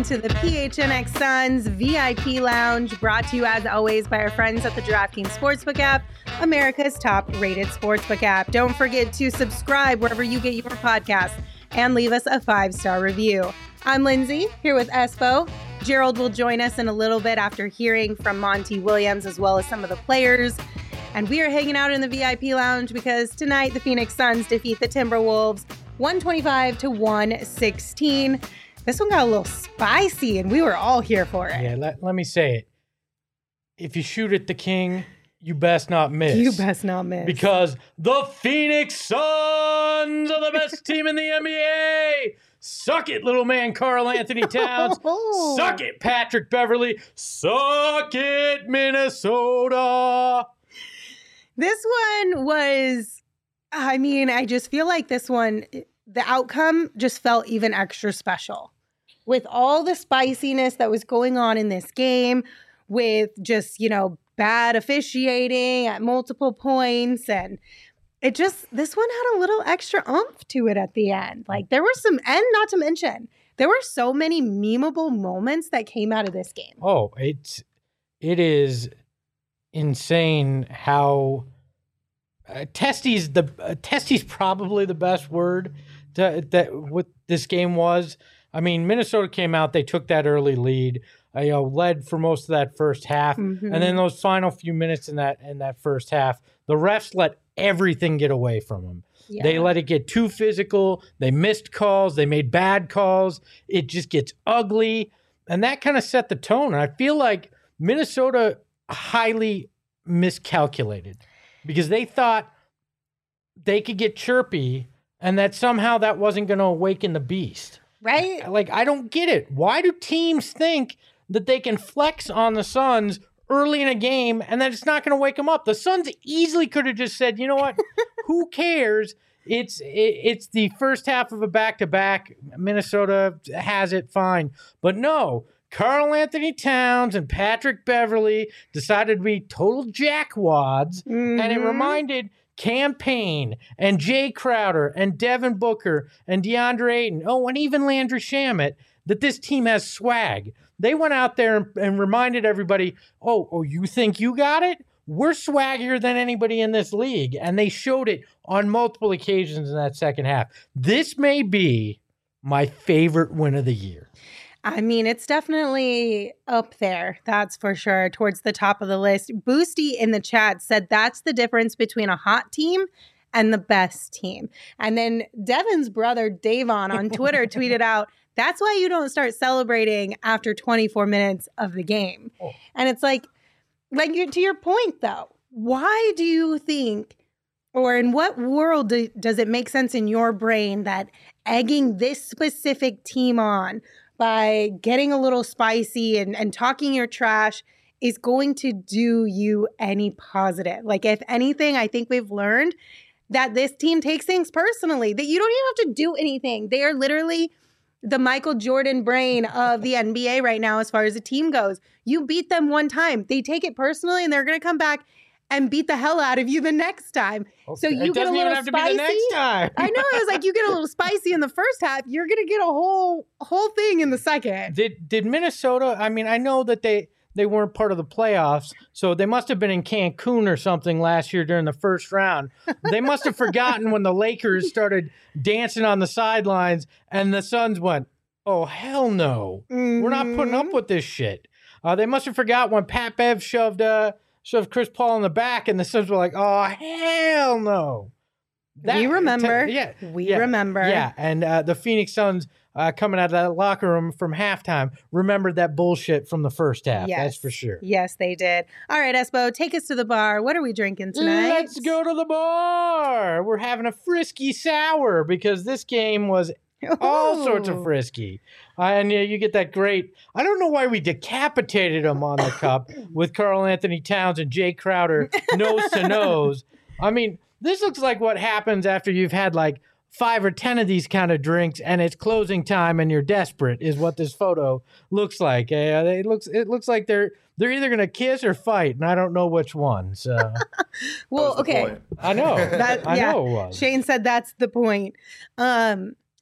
to the PHNX Suns VIP Lounge, brought to you as always by our friends at the DraftKings Sportsbook app, America's top-rated sportsbook app. Don't forget to subscribe wherever you get your podcasts and leave us a 5-star review. I'm Lindsay, here with Espo. Gerald will join us in a little bit after hearing from Monty Williams as well as some of the players. And we are hanging out in the VIP Lounge because tonight the Phoenix Suns defeat the Timberwolves 125-116. This one got a little spicy, and we were all here for it. Yeah, let me say it. If you shoot at the king, you best not miss. You best not miss. Because the Phoenix Suns are the best team in the NBA. Suck it, little man Karl Anthony Towns. Suck it, Patrick Beverley. Suck it, Minnesota. This one was, I just feel like this one, the outcome just felt even extra special. With all the spiciness that was going on in this game, with just, bad officiating at multiple points, and this one had a little extra oomph to it at the end. Like, there were some, and not to mention, there were so many memeable moments that came out of this game. Oh, it is insane how testy's probably the best word that what this game was. I mean, Minnesota came out, they took that early lead, led for most of that first half, and then those final few minutes in that first half, the refs let everything get away from them. Yeah. They let it get too physical. They missed calls. They made bad calls. It just gets ugly, and that kind of set the tone. And I feel like Minnesota highly miscalculated because they thought they could get chirpy and that somehow that wasn't going to awaken the beast. Right? Like, I don't get it. Why do teams think that they can flex on the Suns early in a game and that it's not going to wake them up? The Suns easily could have just said, you know what? Who cares? It's the first half of a back-to-back. Minnesota has it, fine. But no, Karl Anthony Towns and Patrick Beverley decided to be total jackwads, and it reminded Cam Payne and Jay Crowder and Devin Booker and DeAndre Ayton, and even Landry Shamet, that this team has swag. They went out there and reminded everybody, oh, you think you got it? We're swaggier than anybody in this league. And they showed it on multiple occasions in that second half. This may be my favorite win of the year. I mean, it's definitely up there. That's for sure. Towards the top of the list. Boosty in the chat said that's the difference between a hot team and the best team. And then Devin's brother, Davon, on Twitter tweeted out, that's why you don't start celebrating after 24 minutes of the game. Oh. And it's like to your point, though, why do you think, or in what world does it make sense in your brain that egging this specific team on by getting a little spicy and talking your trash is going to do you any positive? Like, if anything, I think we've learned that this team takes things personally, that you don't even have to do anything. They are literally the Michael Jordan brain of the NBA right now as far as the team goes. You beat them one time. They take it personally, and they're going to come back and beat the hell out of you the next time. Okay. So you get a little spicy. To be the next time. I know. It was like, you get a little spicy in the first half. You're going to get a whole thing in the second. Did Minnesota, I mean, I know that they weren't part of the playoffs, so they must have been in Cancun or something last year during the first round. They must have forgotten when the Lakers started dancing on the sidelines and the Suns went, oh, hell no. We're not putting up with this shit. They must have forgot when Pat Bev shoved Chris Paul in the back, and the Suns were like, oh, hell no. We remember. We remember. Yeah, and the Phoenix Suns coming out of that locker room from halftime remembered that bullshit from the first half. Yes. That's for sure. Yes, they did. All right, Espo, take us to the bar. What are we drinking tonight? Let's go to the bar. We're having a frisky sour because this game was all sorts of frisky. And you get that great, I don't know why we decapitated him on the cup with Karl Anthony Towns and Jay Crowder nose to nose. I mean, this looks like what happens after you've had like 5 or 10 of these kind of drinks and it's closing time and you're desperate is what this photo looks like. It looks like they're either going to kiss or fight, and I don't know which one. So, well, okay. I know. I know it was. Shane said that's the point.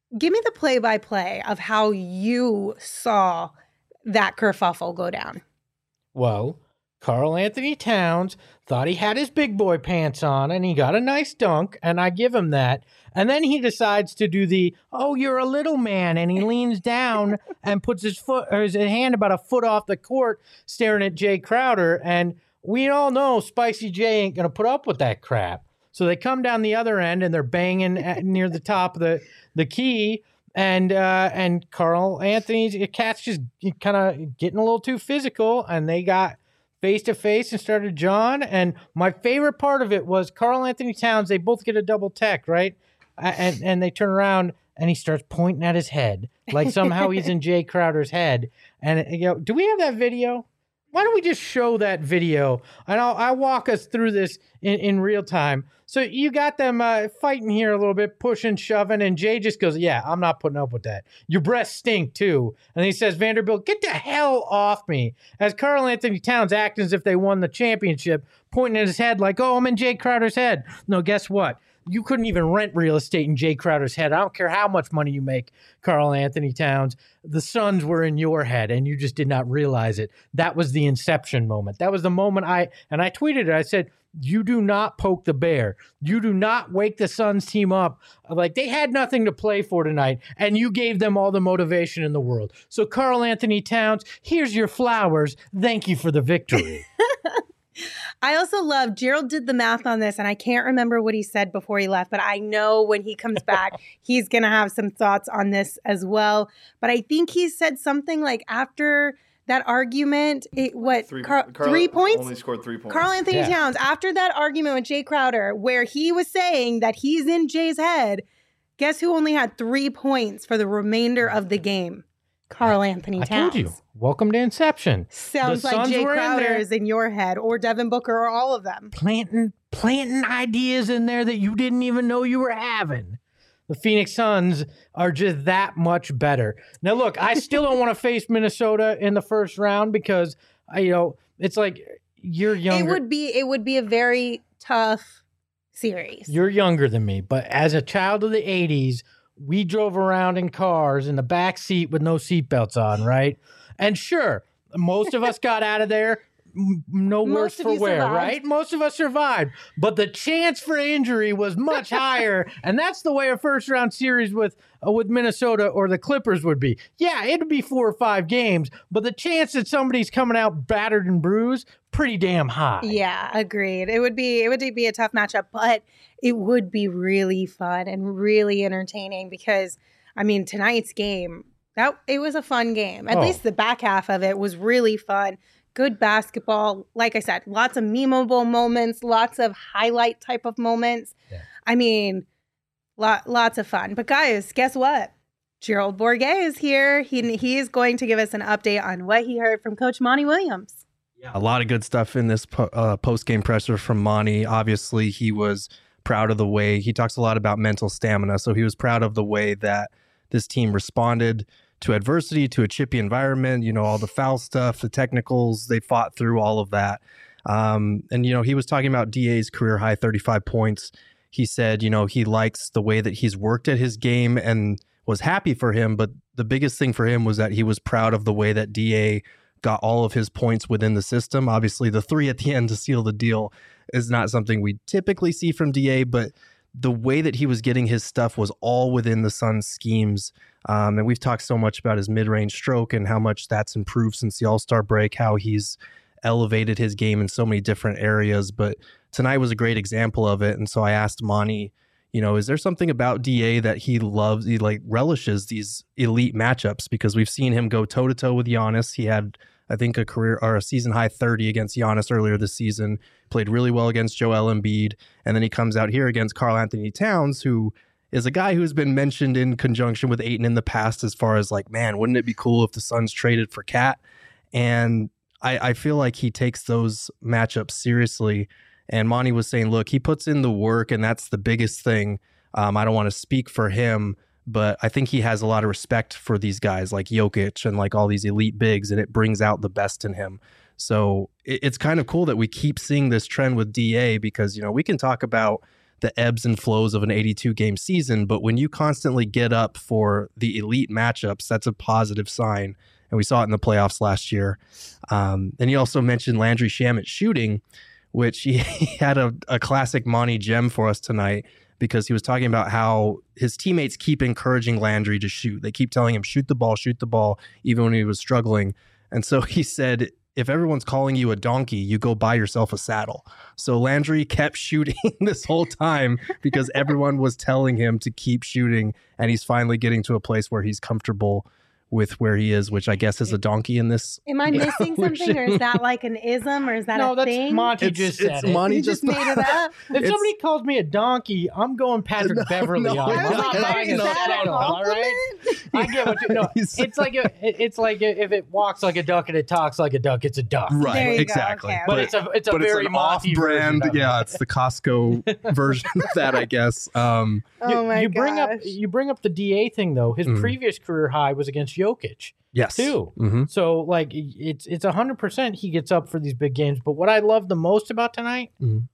Give me the play-by-play of how you saw that kerfuffle go down. Well, Karl Anthony Towns thought he had his big boy pants on and he got a nice dunk, and I give him that. And then he decides to do the, oh, you're a little man, and he leans down and puts his hand about a foot off the court staring at Jay Crowder. And we all know Spicy J ain't going to put up with that crap. So they come down the other end and they're banging near the top of the key. And Karl Anthony's cat's just kind of getting a little too physical, and they got face to face and started John. And my favorite part of it was Karl Anthony Towns. They both get a double tech, right? And they turn around and he starts pointing at his head like somehow he's in Jay Crowder's head. And do we have that video? Why don't we just show that video, and I'll walk us through this in real time. So you got them fighting here a little bit, pushing, shoving, and Jay just goes, yeah, I'm not putting up with that. Your breasts stink too. And he says, Vanderbilt, get the hell off me. As Karl Anthony Towns acting as if they won the championship, pointing at his head like, oh, I'm in Jay Crowder's head. No, guess what? You couldn't even rent real estate in Jay Crowder's head. I don't care how much money you make, Karl Anthony Towns. The Suns were in your head, and you just did not realize it. That was the inception moment. That was the moment I tweeted it. I said, you do not poke the bear. You do not wake the Suns team up. Like, they had nothing to play for tonight, and you gave them all the motivation in the world. So, Karl Anthony Towns, here's your flowers. Thank you for the victory. I also love, Gerald did the math on this, and I can't remember what he said before he left, but I know when he comes back, he's going to have some thoughts on this as well. But I think he said something like after that argument, 3 points? Only scored 3 points. Karl Anthony Towns, after that argument with Jay Crowder, where he was saying that he's in Jay's head, guess who only had 3 points for the remainder of the game? Karl Anthony Towns. I told you. Welcome to Inception. Sounds like Jay Crowder is in your head, or Devin Booker, or all of them. Planting ideas in there that you didn't even know you were having. The Phoenix Suns are just that much better. Now, look, I still don't want to face Minnesota in the first round because, it's like you're younger. It would be a very tough series. You're younger than me, but as a child of the 80s, we drove around in cars in the back seat with no seatbelts on, right? And sure, most of us got out of there no worse for wear, right? Most of us survived. But the chance for injury was much higher, and that's the way a first-round series with Minnesota or the Clippers would be. Yeah, it'd be 4 or 5 games, but the chance that somebody's coming out battered and bruised, pretty damn high. Yeah, agreed. It would be a tough matchup, but it would be really fun and really entertaining because, tonight's game, it was a fun game. At least the back half of it was really fun. Good basketball. Like I said, lots of memeable moments, lots of highlight type of moments. Yeah. Lots of fun. But guys, guess what? Gerald Bourguet is here. He is going to give us an update on what he heard from Coach Monty Williams. Yeah, a lot of good stuff in this post-game presser from Monty. Obviously, he was proud of the way he talks a lot about mental stamina. So he was proud of the way that this team responded to adversity, to a chippy environment, all the foul stuff, the technicals, they fought through all of that. And he was talking about DA's career high 35 points. He said, he likes the way that he's worked at his game and was happy for him. But the biggest thing for him was that he was proud of the way that DA got all of his points within the system. Obviously, the 3 at the end to seal the deal is not something we typically see from DA, but the way that he was getting his stuff was all within the Suns schemes. And we've talked so much about his mid-range stroke and how much that's improved since the All-Star break, how he's elevated his game in so many different areas. But tonight was a great example of it. And so I asked Monty, is there something about DA that he loves, he relishes these elite matchups? Because we've seen him go toe-to-toe with Giannis. He had, I think, a season high 30 against Giannis earlier this season, played really well against Joel Embiid. And then he comes out here against Karl Anthony Towns, who is a guy who's been mentioned in conjunction with Ayton in the past as far as man, wouldn't it be cool if the Suns traded for Cat? And I feel like he takes those matchups seriously. And Monty was saying, look, he puts in the work, and that's the biggest thing. I don't want to speak for him, but I think he has a lot of respect for these guys like Jokic and all these elite bigs, and it brings out the best in him. So it's kind of cool that we keep seeing this trend with DA because, we can talk about the ebbs and flows of an 82 game season. But when you constantly get up for the elite matchups, that's a positive sign. And we saw it in the playoffs last year. And you also mentioned Landry Shamet shooting, which he had a classic Monty gem for us tonight, because he was talking about how his teammates keep encouraging Landry to shoot. They keep telling him, shoot the ball, even when he was struggling. And so he said, if everyone's calling you a donkey, you go buy yourself a saddle. So Landry kept shooting this whole time because everyone was telling him to keep shooting. And he's finally getting to a place where he's comfortable with where he is, which I guess is a donkey in this. Am I missing something, or is that like an ism, or is that No, a that's thing? Monty just said it. Monty You just made it up. If somebody calls me a donkey, I'm going Patrick Beverly on. I I'm was not like, buying is a that a saddle, all right? I get what you know. It's like if it walks like a duck and it talks like a duck, it's a duck. Right, There you go, exactly. okay. But it's a very an Monty off-brand. version of it. Yeah, it's the Costco version of that, I guess. Oh my you bring gosh. up the DA thing though. His previous career high was against Jokic. Yes. Too. Mm-hmm. So like it's 100% he gets up for these big games. But what I love the most about tonight,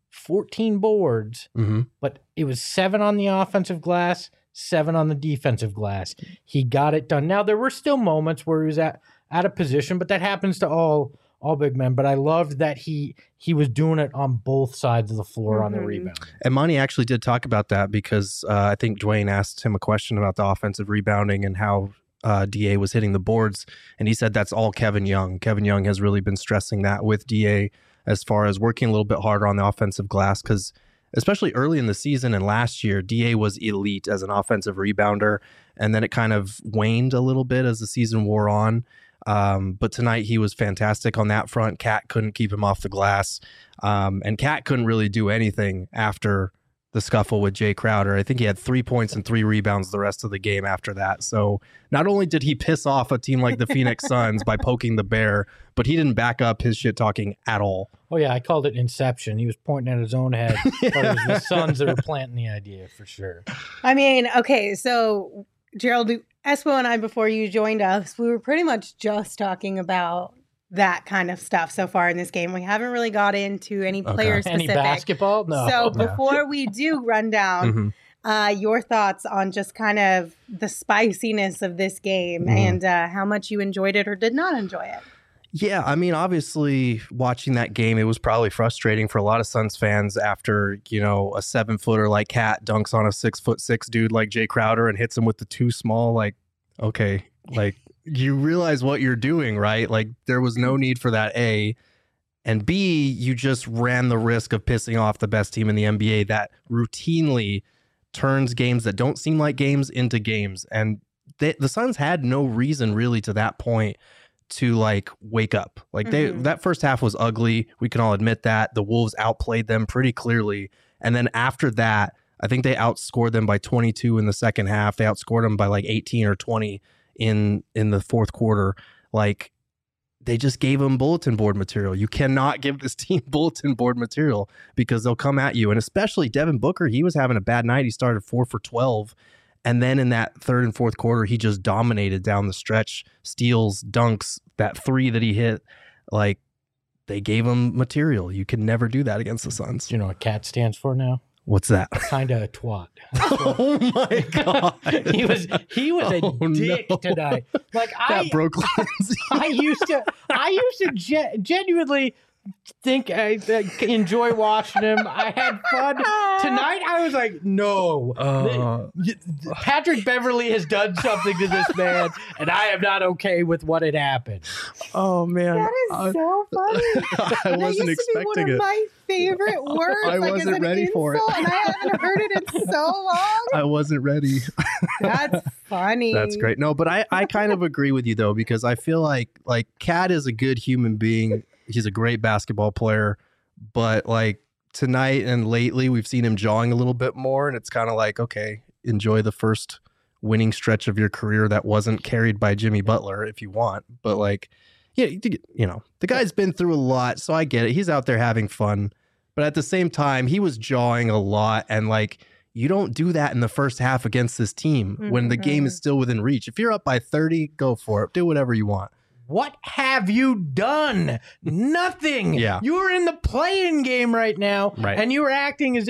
14 boards, but it was 7 on the offensive glass, 7 on the defensive glass. He got it done. Now there were still moments where he was out of position, but that happens to all big men. But I loved that he was doing it on both sides of the floor on the rebound. And Monty actually did talk about that because I think Dwayne asked him a question about the offensive rebounding and how DA was hitting the boards, and he said that's all Kevin Young. Kevin Young has really been stressing that with DA as far as working a little bit harder on the offensive glass, because especially early in the season and last year, DA was elite as an offensive rebounder, and then it kind of waned a little bit as the season wore on. But tonight he was fantastic on that front. Cat couldn't keep him off the glass, and Cat couldn't really do anything after the scuffle with Jay Crowder. I think he had 3 points and 3 rebounds the rest of the game after that. So not only did he piss off a team like the Phoenix Suns by poking the bear, but he didn't back up his shit talking at all. Oh yeah, I called it Inception. He was pointing at his own head, but it was the Suns that were planting the idea for sure. I mean, okay, so Gerald, Espo and I, before you joined us, we were pretty much just talking about that kind of stuff so far in this game. We haven't really got into any player specific. Any basketball? No. So before we do run down your thoughts on just kind of the spiciness of this game and how much you enjoyed it or did not enjoy it. Yeah, I mean, obviously watching that game, it was probably frustrating for a lot of Suns fans after, a 7-footer like Cat dunks on a 6'6" dude like Jay Crowder and hits him with the too small. Like, okay, like you realize what you're doing, right? Like there was no need for that, A. And B, you just ran the risk of pissing off the best team in the NBA that routinely turns games that don't seem like games into games. And the Suns had no reason really to that point to like wake up. Like that first half was ugly. We can all admit that. The Wolves outplayed them pretty clearly. And then after that, I think they outscored them by 22 in the second half. They outscored them by like 18 or 20 in the fourth quarter. Like they just gave them bulletin board material. You cannot give this team bulletin board material because they'll come at you. And especially Devin Booker, he was having a bad night. He started 4 for 12. And then in that third and fourth quarter, he just dominated down the stretch, steals, dunks, that 3 that he hit. Like they gave him material. You can never do that against the Suns. Do you know what CAT stands for now? What's that? Kinda a twat. Oh my God. he was a dick tonight. Like that broke Lindsay. I used to genuinely think I enjoy watching him. I had fun. Tonight I was like, no. Patrick Beverly has done something to this man, and I am not okay with what had happened. Oh man. That is so funny. I wasn't used to be expecting one it. of my favorite words. I like, wasn't as an ready for it. insult, and I haven't heard it in so long. I wasn't ready. That's funny. That's great. No, but I kind of agree with you though, because I feel like Cat is a good human being. He's a great basketball player, but like tonight and lately we've seen him jawing a little bit more, and it's kind of like, okay, enjoy the first winning stretch of your career that wasn't carried by Jimmy Butler if you want. But like, yeah, the guy's been through a lot, so I get it. He's out there having fun, but at the same time, he was jawing a lot, and like, you don't do that in the first half against this team when the game is still within reach. If you're up by 30, go for it. Do whatever you want. What have you done? Nothing. Yeah. You're in the play-in game right now, Right. and you're acting as if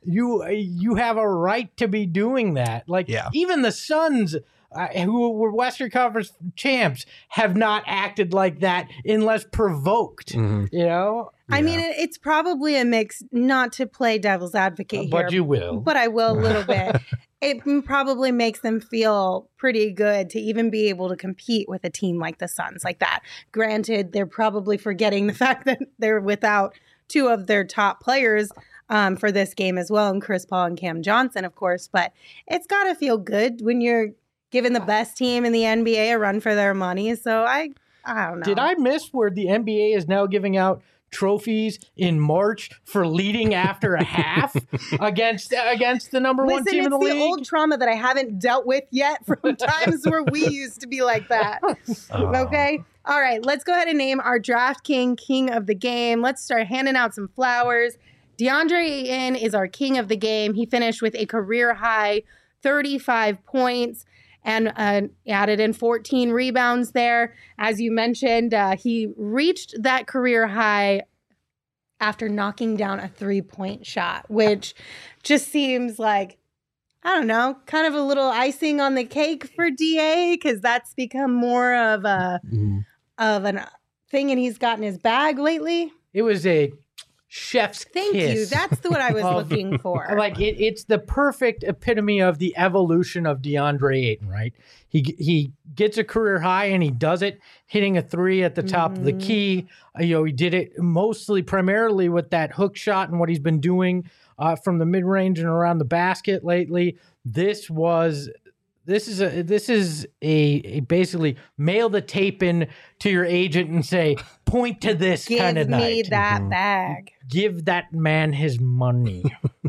you have a right to be doing that. Like, Yeah. even the Suns, who were Western Conference champs, have not acted like that unless provoked. Mhm. You know, I mean, it's probably a mix, not to play devil's advocate here. but you will. But I will a little bit. It probably makes them feel pretty good to even be able to compete with a team like the Suns like that. Granted, they're probably forgetting the fact that they're without two of their top players for this game as well, and Chris Paul and Cam Johnson, of course. But it's got to feel good when you're giving the best team in the NBA a run for their money. So I don't know. Did I miss where the NBA is now giving out trophies in March for leading after a half against the number one team in the it's league? the old trauma that I haven't dealt with yet from times where we used to be like that. Okay? All right, let's go ahead and name our Draft King of the game. Let's start handing out some flowers. DeAndre Ayton is our king of the game. He finished with a career high 35 points and added in 14 rebounds there. As you mentioned, he reached that career high after knocking down a three-point shot, which just seems like, I don't know, kind of a little icing on the cake for DA, because that's become more of a thing and he's got in his bag lately. It was a chef's Thank kiss. you. That's what I was looking for. Like, it's the perfect epitome of the evolution of DeAndre Ayton, right? He gets a career high and he does it hitting a three at the top of the key. He did it primarily with that hook shot and what he's been doing from the mid range and around the basket lately. This is a basically mail the tape in to your agent and say, point to this kind of night. Give me that bag. Give that man his money.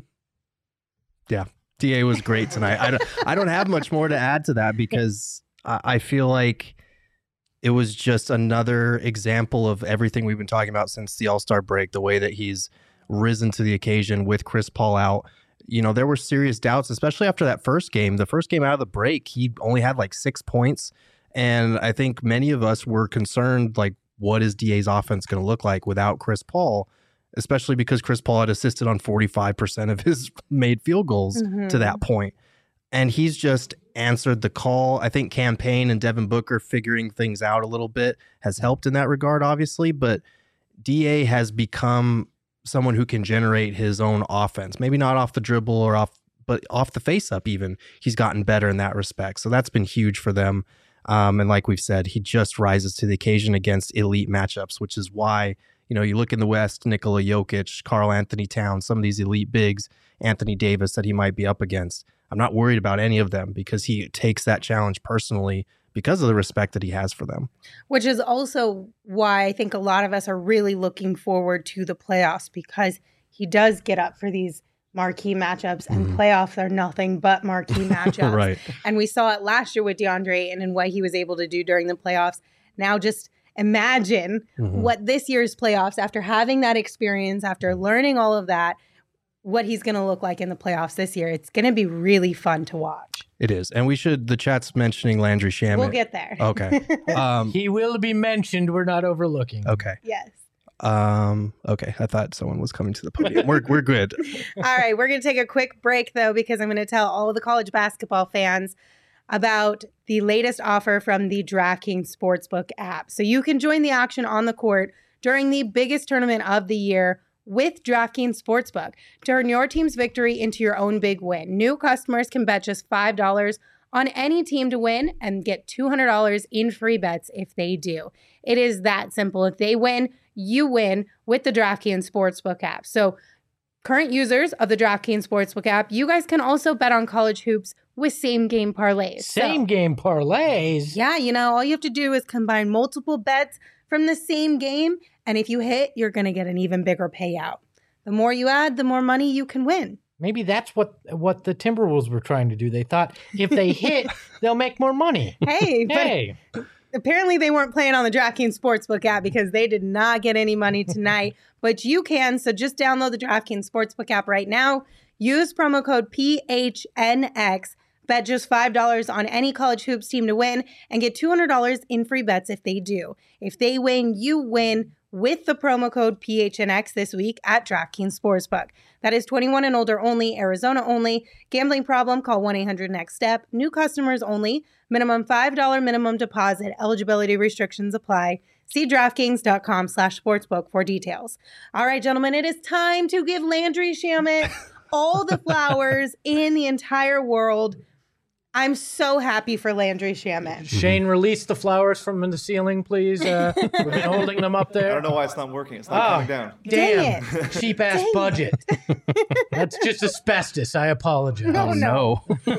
Yeah. DA was great tonight. I don't have much more to add to that because I feel like it was just another example of everything we've been talking about since the All-Star break, the way that he's risen to the occasion with Chris Paul out. There were serious doubts, especially after that first game. The first game out of the break, he only had like 6 points. And I think many of us were concerned, like, what is DA's offense going to look like without Chris Paul? Especially because Chris Paul had assisted on 45% of his made field goals to that point. And he's just answered the call. I think Cam Payne and Devin Booker figuring things out a little bit has helped in that regard, obviously. But DA has become someone who can generate his own offense. Maybe not off the dribble but off the face-up even. He's gotten better in that respect. So that's been huge for them. And like we've said, he just rises to the occasion against elite matchups, which is why, you look in the West, Nikola Jokic, Karl Anthony Towns, some of these elite bigs, Anthony Davis that he might be up against. I'm not worried about any of them because he takes that challenge personally because of the respect that he has for them. Which is also why I think a lot of us are really looking forward to the playoffs, because he does get up for these marquee matchups, and playoffs are nothing but marquee matchups. Right. And we saw it last year with DeAndre and what he was able to do during the playoffs. Now just imagine what this year's playoffs, after having that experience, after learning all of that, what he's going to look like in the playoffs this year. It's going to be really fun to watch. It is. And the chat's mentioning Landry Shamet. We'll get there. Okay. He will be mentioned. We're not overlooking. Okay. Yes. Okay. I thought someone was coming to the podium. We're good. All right. We're going to take a quick break, though, because I'm going to tell all of the college basketball fans about the latest offer from the DraftKings Sportsbook app. So you can join the action on the court during the biggest tournament of the year with DraftKings Sportsbook. Turn your team's victory into your own big win. New customers can bet just $5 on any team to win and get $200 in free bets if they do. It is that simple. If they win, you win with the DraftKings Sportsbook app. So current users of the DraftKings Sportsbook app, you guys can also bet on college hoops with same-game parlays. Same-game parlays? Yeah, all you have to do is combine multiple bets from the same game, and if you hit, you're going to get an even bigger payout. The more you add, the more money you can win. Maybe that's what the Timberwolves were trying to do. They thought if they hit, they'll make more money. Hey, but apparently they weren't playing on the DraftKings Sportsbook app because they did not get any money tonight. But you can, so just download the DraftKings Sportsbook app right now. Use promo code PHNX. Bet just $5 on any college hoops team to win and get $200 in free bets if they do. If they win, you win with the promo code PHNX this week at DraftKings Sportsbook. That is 21 and older only, Arizona only. Gambling problem? Call 1-800-NEXT-STEP. New customers only. Minimum $5 minimum deposit. Eligibility restrictions apply. See DraftKings.com/sportsbook for details. All right, gentlemen, it is time to give Landry Shamet all the flowers in the entire world. I'm so happy for Landry Shamet. Shane, release the flowers from the ceiling, please. We've been holding them up there. I don't know why it's not working. It's not coming down. Dang Damn, cheap ass budget. That's just asbestos. I apologize. No.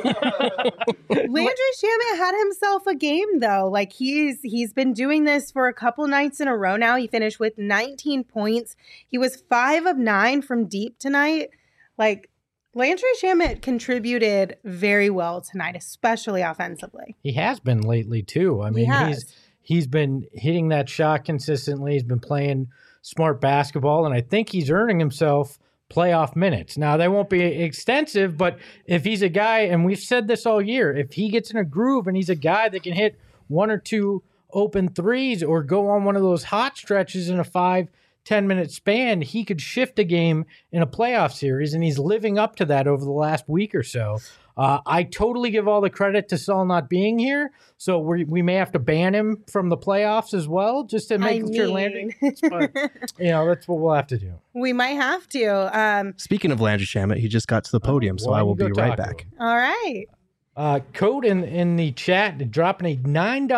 Landry Shamet had himself a game though. Like he's been doing this for a couple nights in a row now. He finished with 19 points. He was 5 of 9 from deep tonight. Like Landry Shamet contributed very well tonight, especially offensively. He has been lately too. I mean, he's been hitting that shot consistently. He's been playing smart basketball, and I think he's earning himself playoff minutes. Now, they won't be extensive, but if he's a guy, and we've said this all year, if he gets in a groove and he's a guy that can hit 1 or 2 open threes or go on one of those hot stretches in a 5-10 minute span, he could shift a game in a playoff series, and he's living up to that over the last week or so. I totally give all the credit to Saul not being here, so we may have to ban him from the playoffs as well, just to make sure Landry. But that's what we'll have to do. We might have to. Speaking of Landry Shamet, he just got to the podium, so I will be right back. All right. Code in the chat, dropping a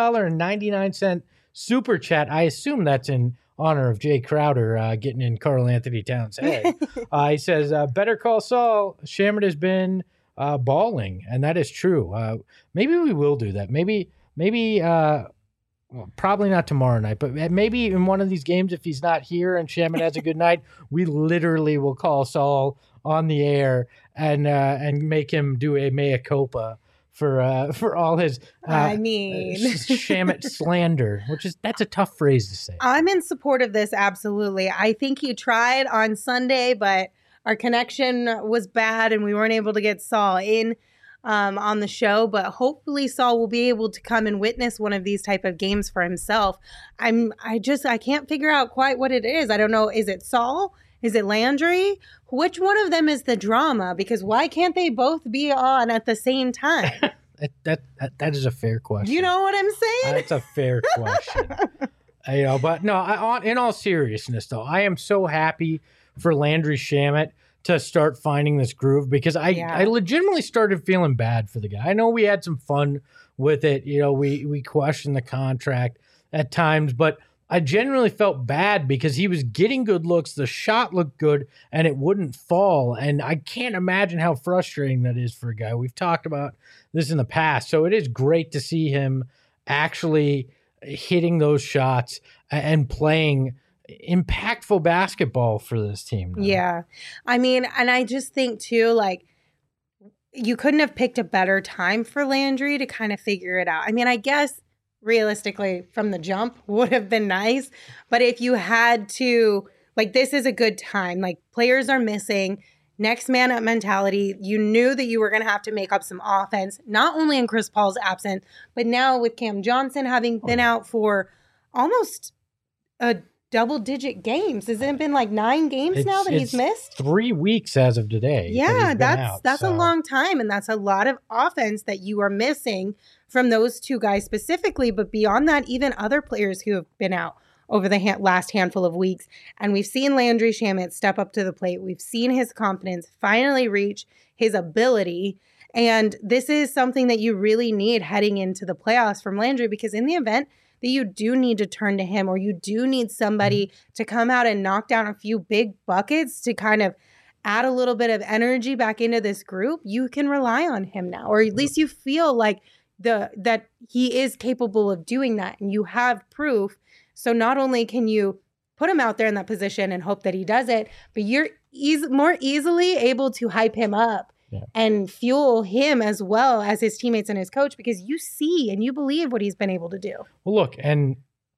$9.99 super chat. I assume that's in honor of Jay Crowder getting in Karl Anthony Towns' head. He says, better call Saul. Shamet has been balling, and that is true. Maybe we will do that. Maybe probably not tomorrow night, but maybe in one of these games, if he's not here and Shamet has a good night, we literally will call Saul on the air and make him do a mea culpa for all his Shamet slander, that's a tough phrase to say. I'm in support of this, absolutely. I think he tried on Sunday, but our connection was bad and we weren't able to get Saul in on the show. But hopefully Saul will be able to come and witness one of these type of games for himself. I can't figure out quite what it is. I don't know. Is it Saul? Is it Landry? Which one of them is the drama? Because why can't they both be on at the same time? That is a fair question. You know what I'm saying? That's a fair question. But no, in all seriousness, though, I am so happy for Landry Shamet to start finding this groove, because I legitimately started feeling bad for the guy. I know we had some fun with it. We questioned the contract at times, but I genuinely felt bad because he was getting good looks. The shot looked good and it wouldn't fall. And I can't imagine how frustrating that is for a guy. We've talked about this in the past. So it is great to see him actually hitting those shots and playing impactful basketball for this team now. Yeah. I mean, and I just think too, like, you couldn't have picked a better time for Landry to kind of figure it out. I mean, I guess realistically from the jump would have been nice, but if you had to, like, this is a good time. Like, players are missing, next man up mentality. You knew that you were going to have to make up some offense, not only in Chris Paul's absence, but now with Cam Johnson having been out for almost a double-digit games. Has it been like 9 games now that he's missed? 3 weeks as of today. Yeah, that's a long time, and that's a lot of offense that you are missing from those two guys specifically. But beyond that, even other players who have been out over the last handful of weeks. And we've seen Landry Shamet step up to the plate. We've seen his confidence finally reach his ability. And this is something that you really need heading into the playoffs from Landry, because in the event that you do need to turn to him, or you do need somebody to come out and knock down a few big buckets to kind of add a little bit of energy back into this group, you can rely on him now, or at least you feel like that he is capable of doing that, and you have proof. So not only can you put him out there in that position and hope that he does it, but you're more easily able to hype him up and fuel him as well as his teammates and his coach, because you see and you believe what he's been able to do. Well, look, and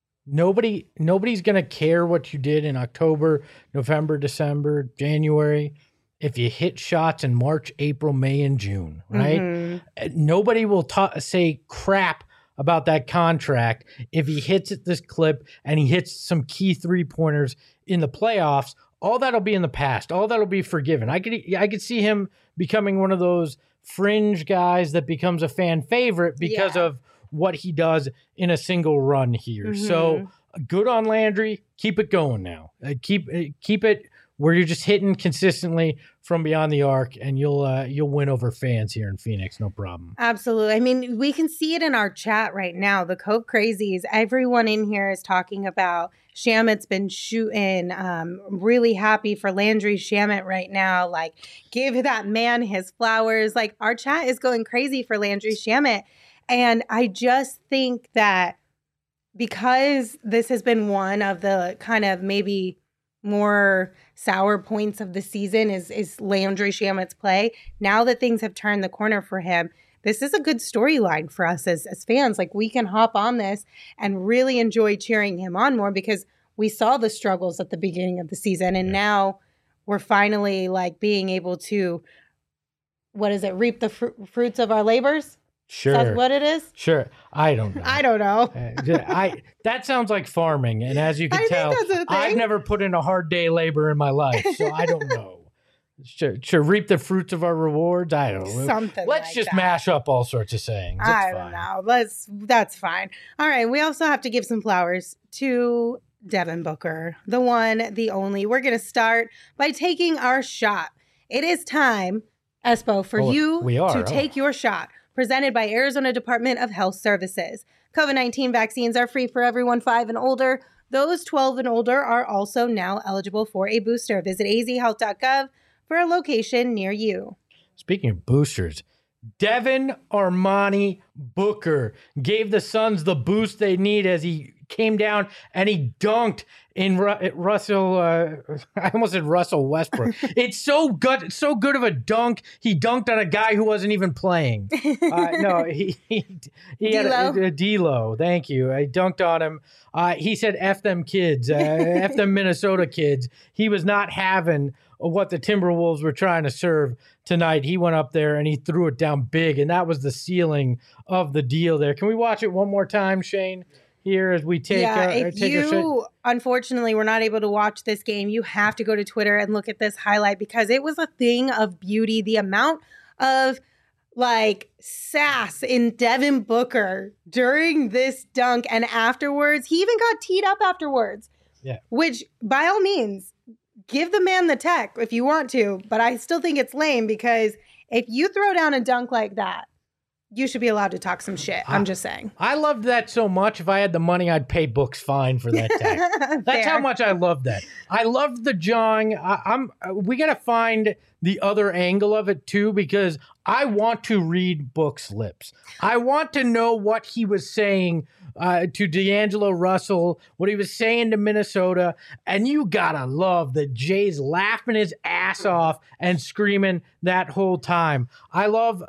nobody's going to care what you did in October, November, December, January if you hit shots in March, April, May, and June, right? Mm-hmm. Nobody will say crap about that contract if he hits at this clip and he hits some key 3-pointers in the playoffs. All that'll be in the past. All that'll be forgiven. I could see him becoming one of those fringe guys that becomes a fan favorite because of what he does in a single run here. So good on Landry. Keep it going now. Keep it where you're just hitting consistently from beyond the arc, and you'll win over fans here in Phoenix, no problem. Absolutely. I mean, we can see it in our chat right now. The Cove Crazies, everyone in here is talking about Shamet's been shooting. Really happy for Landry Shamet right now. Like, give that man his flowers. Like, our chat is going crazy for Landry Shamet. And I just think that because this has been one of the kind of maybe more sour points of the season is Landry Shamet's play. Now that things have turned the corner for him, this is a good storyline for us as fans. Like, we can hop on this and really enjoy cheering him on more because we saw the struggles at the beginning of the season. And now we're finally like being able to, reap the fruits of our labors? Sure. That's what it is? Sure. I don't know. I don't know. That sounds like farming. And as you can tell, I've never put in a hard day labor in my life. So I don't know. Sure. Reap the fruits of our rewards. I don't know. Something Let's like just that. Mash up all sorts of sayings. I don't know. That's fine. All right. We also have to give some flowers to Devin Booker, the one, the only. We're going to start by taking our shot. It is time, Espo, for you to take your shot. Presented by Arizona Department of Health Services. COVID-19 vaccines are free for everyone 5 and older. Those 12 and older are also now eligible for a booster. Visit azhealth.gov for a location near you. Speaking of boosters, Devin Armani Booker gave the Suns the boost they need as he came down and he dunked in Russell. I almost said Russell Westbrook. It's so good of a dunk. He dunked on a guy who wasn't even playing. No, he had a D'Lo. Thank you. I dunked on him. He said, "F them kids, F them Minnesota kids." He was not having what the Timberwolves were trying to serve tonight. He went up there and he threw it down big, and that was the ceiling of the deal there. Can we watch it one more time, Shane? Here as we take if you unfortunately were not able to watch this game, you have to go to Twitter and look at this highlight because it was a thing of beauty. The amount of like sass in Devin Booker during this dunk and afterwards, he even got teed up afterwards. Yeah. Which by all means, give the man the tech if you want to, but I still think it's lame because if you throw down a dunk like that, you should be allowed to talk some shit. I'm just saying. I loved that so much. If I had the money, I'd pay Book's fine for that tag. That's how much I love that. I loved the jawing. We got to find the other angle of it too, because I want to read Book's lips. I want to know what he was saying to D'Angelo Russell, what he was saying to Minnesota. And you gotta love that Jay's laughing his ass off and screaming that whole time. I love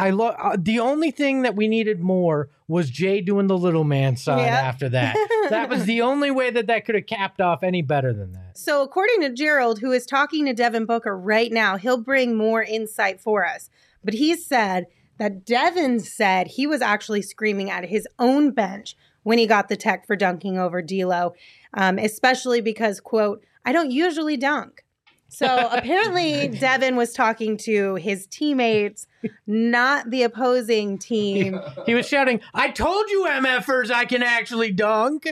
the only thing that we needed more was Jay doing the little man sign after that. That was the only way that could have capped off any better than that. So according to Gerald, who is talking to Devin Booker right now, he'll bring more insight for us. But he said that Devin said he was actually screaming at his own bench when he got the tech for dunking over D'Lo, especially because, quote, "I don't usually dunk." So apparently Devin was talking to his teammates, not the opposing team. He was shouting, "I told you MFers I can actually dunk."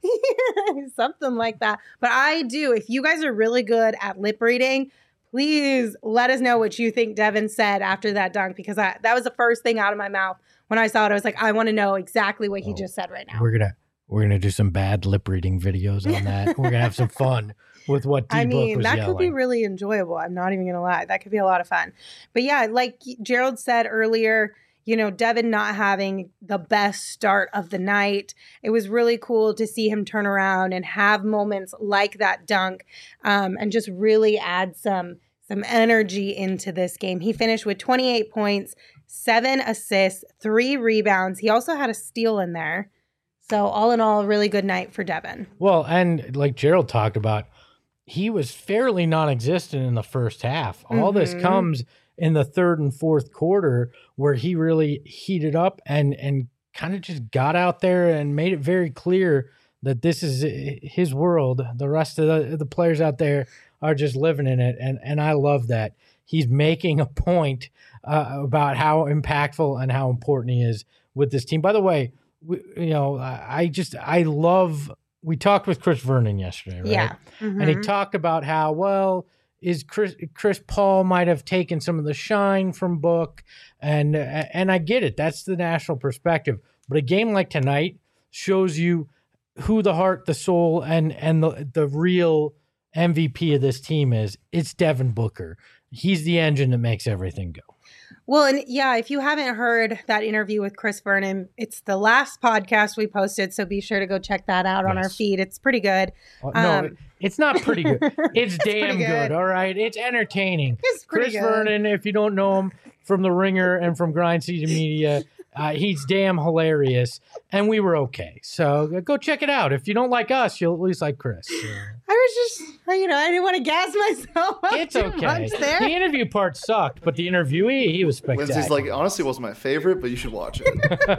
Something like that. But I do. If you guys are really good at lip reading, please let us know what you think Devin said after that dunk, because that was the first thing out of my mouth when I saw it. I was like, I want to know exactly what he just said right now. We're gonna do some bad lip reading videos on that. We're gonna have some fun with what D-Book was that yelling. Could be really enjoyable. I'm not even gonna lie. That could be a lot of fun. But yeah, like Gerald said earlier, you know, Devin not having the best start of the night. It was really cool to see him turn around and have moments like that dunk, and just really add some energy into this game. He finished with 28 points, 7 assists, 3 rebounds. He also had a steal in there. So all in all, a really good night for Devin. Well, and like Gerald talked about, he was fairly non-existent in the first half. All this comes in the third and fourth quarter where he really heated up and kind of just got out there and made it very clear that this is his world. The rest of the players out there are just living in it. And I love that. He's making a point about how impactful and how important he is with this team. By the way, I love, we talked with Chris Vernon yesterday, right? Yeah. Mm-hmm. And he talked about how, well, is Chris Paul might have taken some of the shine from Book. And I get it. That's the national perspective. But a game like tonight shows you who the heart, the soul, and the real MVP of this team is. It's Devin Booker. He's the engine that makes everything go. Well, and yeah, if you haven't heard that interview with Chris Vernon, it's the last podcast we posted, so be sure to go check that out on our feed. It's pretty good. No, it's not pretty good. It's damn good. All right, it's entertaining. It's pretty Chris good. Vernon, if you don't know him from The Ringer and from Grind Season Media, he's damn hilarious, and we were okay. So go check it out. If you don't like us, you'll at least like Chris. I was just, I didn't want to gas myself up. It's too okay. much there. The interview part sucked, but the interviewee, he was spectacular. Lindsay's like, honestly, wasn't my favorite, but you should watch it.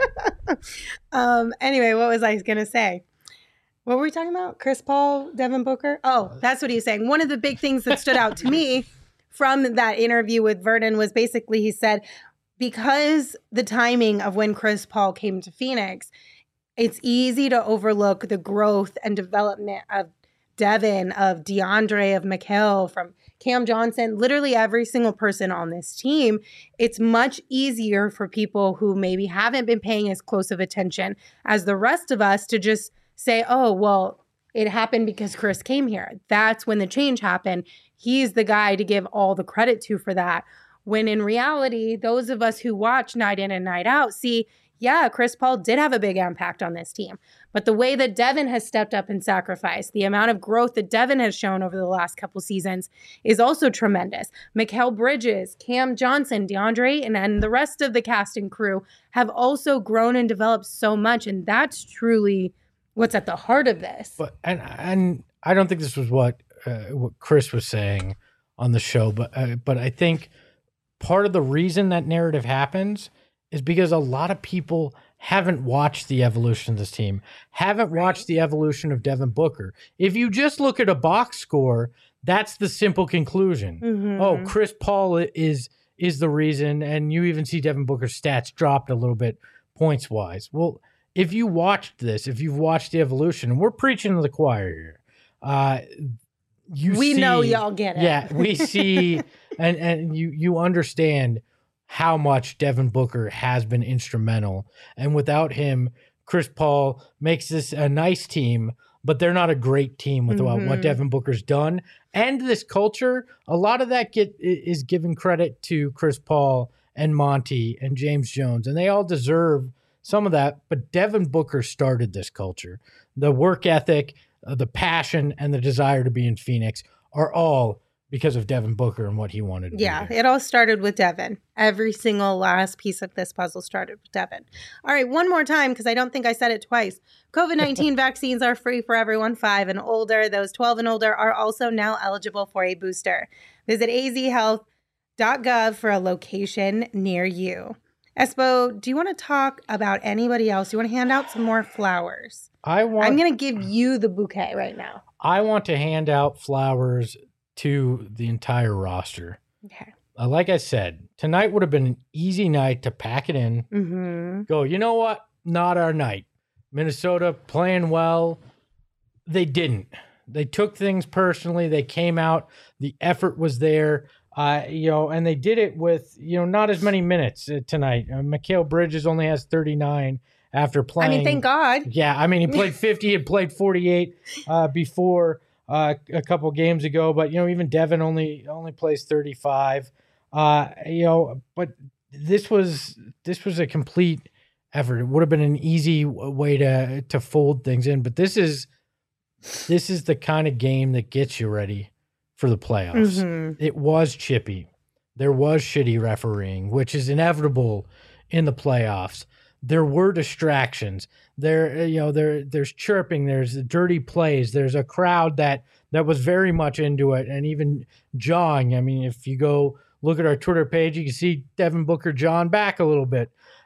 Anyway, what was I going to say? What were we talking about? Chris Paul, Devin Booker? Oh, that's what he was saying. One of the big things that stood out to me from that interview with Vernon was basically he said, because the timing of when Chris Paul came to Phoenix, it's easy to overlook the growth and development of Devin, of DeAndre, of Mikal, from Cam Johnson, literally every single person on this team. It's much easier for people who maybe haven't been paying as close of attention as the rest of us to just say, oh, well, it happened because Chris came here. That's when the change happened. He's the guy to give all the credit to for that. When in reality, those of us who watch night in and night out see, yeah, Chris Paul did have a big impact on this team. But the way that Devin has stepped up and sacrificed, the amount of growth that Devin has shown over the last couple seasons is also tremendous. Mikal Bridges, Cam Johnson, DeAndre, and the rest of the cast and crew have also grown and developed so much. And that's truly what's at the heart of this. But and I don't think this was what Chris was saying on the show, but I think part of the reason that narrative happens is because a lot of people haven't watched the evolution of this team, haven't watched the evolution of Devin Booker. If you just look at a box score, that's the simple conclusion. Mm-hmm. Oh, Chris Paul is the reason, and you even see Devin Booker's stats dropped a little bit points wise. Well, if you watched this, if you've watched the evolution, and we're preaching to the choir here, we know y'all get it. Yeah, we see, and you understand how much Devin Booker has been instrumental. And without him, Chris Paul makes this a nice team, but they're not a great team without what Devin Booker's done. And this culture, a lot of that is given credit to Chris Paul and Monty and James Jones, and they all deserve some of that. But Devin Booker started this culture. The work ethic, the passion, and the desire to be in Phoenix are all because of Devin Booker and what he wanted to do. Yeah, it all started with Devin. Every single last piece of this puzzle started with Devin. All right, one more time, because I don't think I said it twice. COVID-19 vaccines are free for everyone 5 and older. Those 12 and older are also now eligible for a booster. Visit azhealth.gov for a location near you. Espo, do you want to talk about anybody else? Do you want to hand out some more flowers? I'm going to give you the bouquet right now. I want to hand out flowers to the entire roster. Okay. Like I said, tonight would have been an easy night to pack it in. Mm-hmm. Go, you know what? Not our night. Minnesota playing well. They didn't. They took things personally. They came out. The effort was there. And they did it with, not as many minutes tonight. Mikal Bridges only has 39 after playing. I mean, thank God. Yeah, he played 50 and played 48 before a couple games ago. But, even Devin only plays 35. But this was a complete effort. It would have been an easy way to fold things in. But this is the kind of game that gets you ready for the playoffs. Mm-hmm. It was chippy. There was shitty refereeing, which is inevitable in the playoffs. There were distractions. There's chirping. There's dirty plays. There's a crowd that was very much into it and even jawing. If you go look at our Twitter page, you can see Devin Booker jawing back a little bit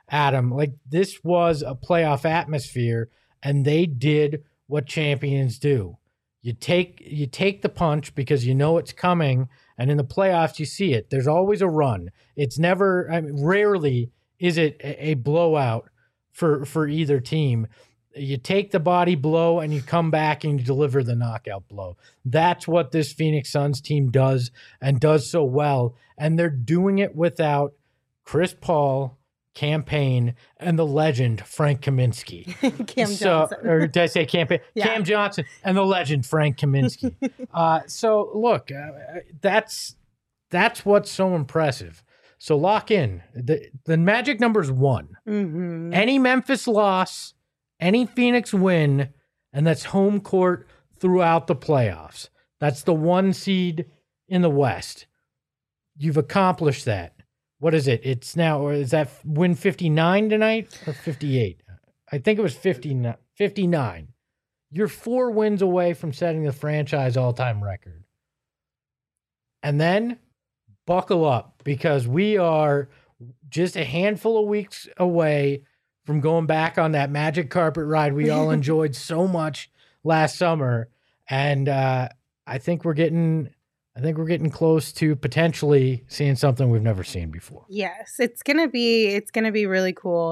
Adam, like this was a playoff atmosphere, and they did what champions do. You take the punch because you know it's coming, and in the playoffs you see it. There's always a run. It's never, rarely is it a blowout for either team. You take the body blow and you come back and you deliver the knockout blow. That's what this Phoenix Suns team does, and does so well. And they're doing it without Chris Paul, Cam Payne, and the legend Frank Kaminsky. Cam Johnson. Or did I say Cam Payne? Yeah. Cam Johnson and the legend Frank Kaminsky. So look, that's what's so impressive. So lock in. The magic number is 1. Mm-hmm. Any Memphis loss, any Phoenix win, and that's home court throughout the playoffs. That's the 1 seed in the West. You've accomplished that. What is it? It's now, or is that win 59 tonight or 58? I think it was 59. You're 4 wins away from setting the franchise all-time record. And then buckle up, because we are just a handful of weeks away from going back on that magic carpet ride we all enjoyed so much last summer. And I think we're getting close to potentially seeing something we've never seen before. Yes, it's gonna be really cool.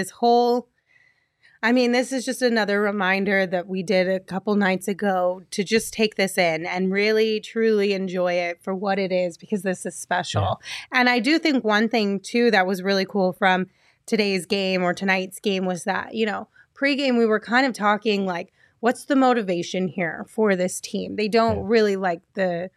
This is just another reminder that we did a couple nights ago to just take this in and really truly enjoy it for what it is, because this is special. Yeah. And I do think one thing too that was really cool from today's game or tonight's game was that, pregame we were kind of talking like, what's the motivation here for this team? They don't really like the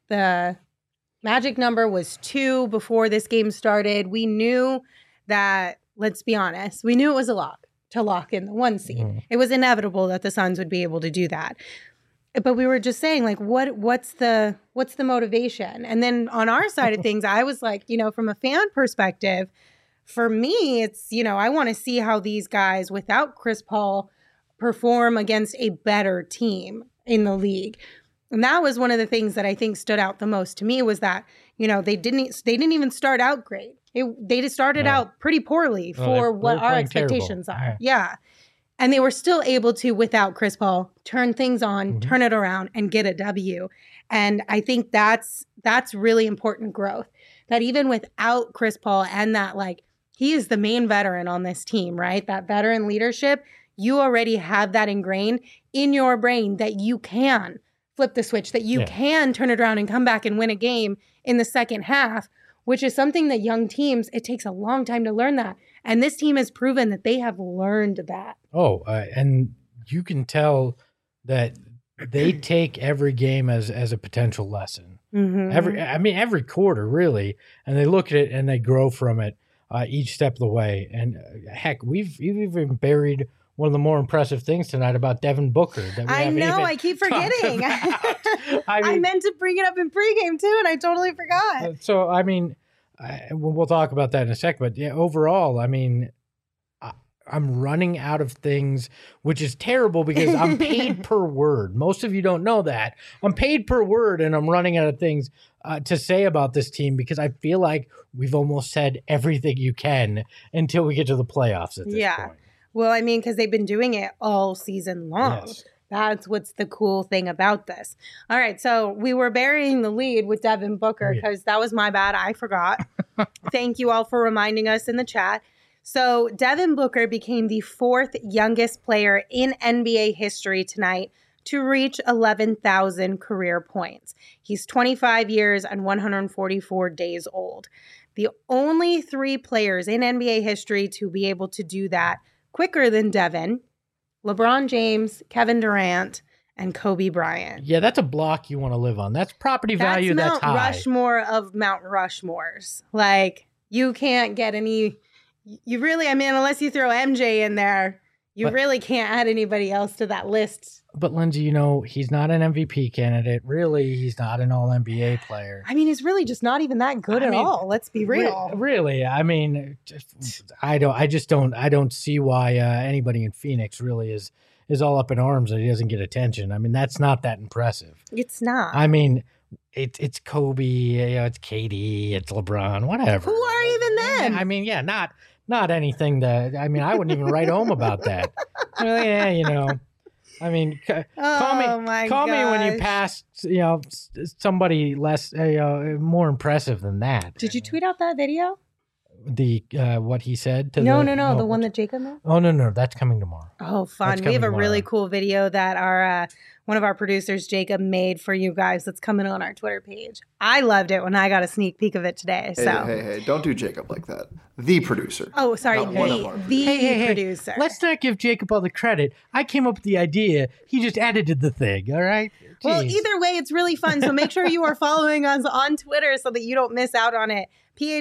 magic number was 2 before this game started. We knew that, let's be honest, we knew it was a lock to lock in the 1 seed. Mm-hmm. It was inevitable that the Suns would be able to do that. But we were just saying, like, what's the motivation? And then on our side of things, I was like, from a fan perspective, for me, it's, I want to see how these guys without Chris Paul perform against a better team in the league. And that was one of the things that I think stood out the most to me was that, they didn't even start out great. They just started out pretty poorly for what our expectations are. Yeah. And they were still able to, without Chris Paul, turn things on, turn it around, and get a W. And I think that's really important growth. That even without Chris Paul and that, like, he is the main veteran on this team, right? That veteran leadership, you already have that ingrained in your brain that you can flip the switch, that you can turn it around and come back and win a game in the second half, which is something that young teams, it takes a long time to learn that. And this team has proven that they have learned that. And you can tell that they take every game as a potential lesson. Mm-hmm. Every quarter, really. And they look at it and they grow from it each step of the way. And heck, we've even buried one of the more impressive things tonight about Devin Booker. I keep forgetting. I meant to bring it up in pregame too, and I totally forgot. So, we'll talk about that in a second. But yeah, overall, I'm running out of things, which is terrible because I'm paid per word. Most of you don't know that. I'm paid per word, and I'm running out of things to say about this team because I feel like we've almost said everything you can until we get to the playoffs at this point. Well, because they've been doing it all season long. Yes. That's what's the cool thing about this. All right, so we were burying the lead with Devin Booker because that was my bad. I forgot. Thank you all for reminding us in the chat. So Devin Booker became the 4th youngest player in NBA history tonight to reach 11,000 career points. He's 25 years and 144 days old. The only 3 players in NBA history to be able to do that quicker than Devin: LeBron James, Kevin Durant, and Kobe Bryant. Yeah, that's a block you want to live on. That's property value that's high. Mount Rushmore of Mount Rushmores. Like, you can't get any... You really, unless you throw MJ in there, really can't add anybody else to that list. But Lindsay, he's not an MVP candidate. Really, he's not an all-NBA player. He's really just not even that good at all. Let's be real. Really, I don't see why anybody in Phoenix really is all up in arms that he doesn't get attention. That's not that impressive. It's not. It's Kobe, it's KD, it's LeBron, whatever. Who are even them? not anything that, I mean, I wouldn't even write home about that. Yeah, you know, I mean, call me when you gosh. pass, you know, somebody less, more impressive than that. Did you tweet out that video? The what he said to No, the one that Jacob made. Oh no, that's coming tomorrow. Oh, fun! That's We have a coming really tomorrow. cool video that our one of our producers, Jacob, made for you guys. That's coming on our Twitter page. I loved it when I got a sneak peek of it today. Hey, So, hey, don't do Jacob like that. The producer. oh, sorry, Not one of our the Hey, producer. let's not give Jacob all the credit. I came up with the idea. He just edited the thing. All right. Well, Jeez. either way, it's really fun. So make sure you are following us on Twitter so that you don't miss out on it.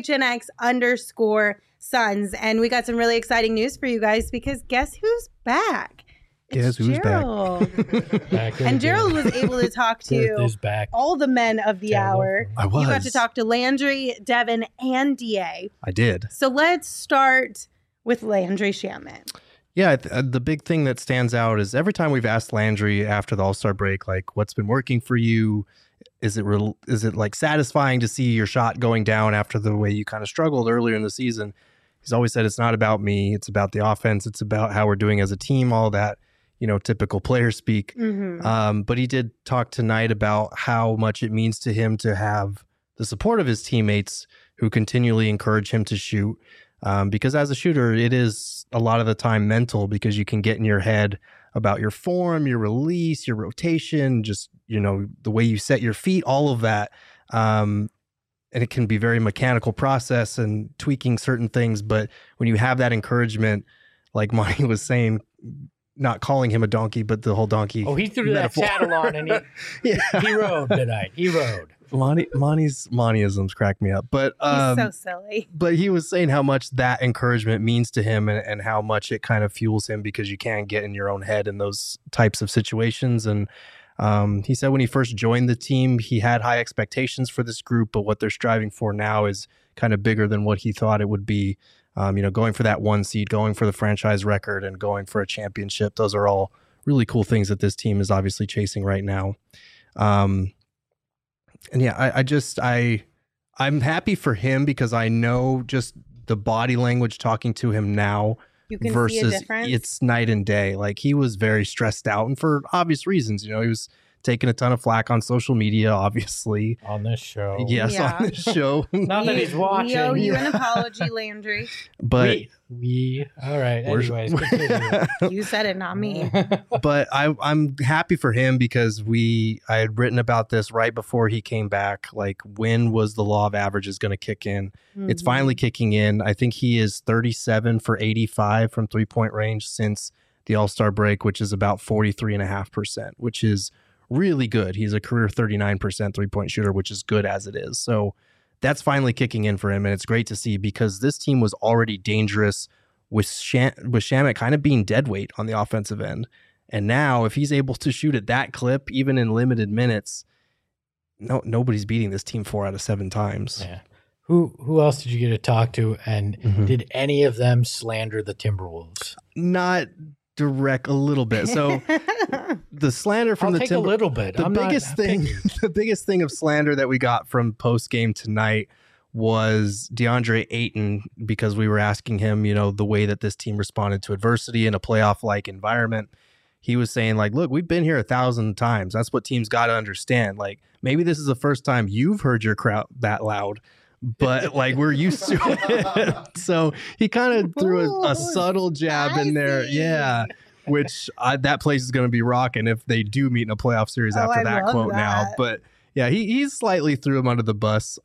PHNX_Suns. And we got some really exciting news for you guys because guess who's back? Guess who's back? Gerald. Back And again. Gerald was able to talk Girth to is back. all the men of the Gerald. hour. I was. You got to talk to Landry, Devin, and DA. I did. So let's start with Landry Shamet. Yeah, the big thing that stands out is every time we've asked Landry after the All-Star break, like, what's been working for you? Is it like satisfying to see your shot going down after the way you kind of struggled earlier in the season? He's always said it's not about me, it's about the offense, it's about how we're doing as a team, all that, you know, typical player speak. Mm-hmm. But he did talk tonight about how much it means to him to have the support of his teammates who continually encourage him to shoot. Because as a shooter, it is a lot of the time mental because you can get in your head about your form, your release, your rotation, just, you know, the way you set your feet, all of that. And it can be a very mechanical process and tweaking certain things. But when you have that encouragement, like Monty was saying, not calling him a donkey, but the whole donkey. Oh, he threw metaphor. that saddle on and he rode tonight. He rode. Monty's Montyisms crack me up. But He's so silly. but he was saying how much that encouragement means to him and how much it kind of fuels him because you can't get in your own head in those types of situations. And he said when he first joined the team, he had high expectations for this group, but what they're striving for now is kind of bigger than what he thought it would be. You know, going for that 1 seed, going for the franchise record, and going for a championship. Those are all really cool things that this team is obviously chasing right now. And yeah, I'm happy for him because I know just the body language talking to him now You can see a versus difference. it's night and day. Like he was very stressed out and for obvious reasons. You know, he was taking a ton of flack on social media, obviously. On this show. Yes, Yeah. on this show. Not that he's watching. We owe you an apology, Landry. But we all right. We're- Anyways, continue. You said it, not me. but I'm happy for him because I had written about this right before he came back. Like, when was the law of averages going to kick in? It's finally kicking in. I think he is 37 for 85 from 3-point range since the All-Star break, which is about 43.5%, which is really good. He's a career 39% 3-point shooter, which is good as it is. So that's finally kicking in for him. And it's great to see because this team was already dangerous with Shamet kind of being dead weight on the offensive end. And now if he's able to shoot at that clip, even in limited minutes, nobody's beating this team 4 out of 7 times. Yeah. Who else did you get to talk to? And did any of them slander the Timberwolves? Not direct, a little bit. So the slander from I'll the take a little bit. The I'm not biggest thing, picky. the biggest thing of slander that we got from post game tonight was DeAndre Ayton, because we were asking him, you know, the way that this team responded to adversity in a playoff like environment. He was saying, like, look, we've been here 1,000 times. That's what teams got to understand. Like, maybe this is the first time you've heard your crowd that loud, but like we're used to it. So he kind of threw a subtle jab in there. spicy. Yeah. Which that place is going to be rocking if they do meet in a playoff series after I that love quote now. that. But yeah, he slightly threw him under the bus.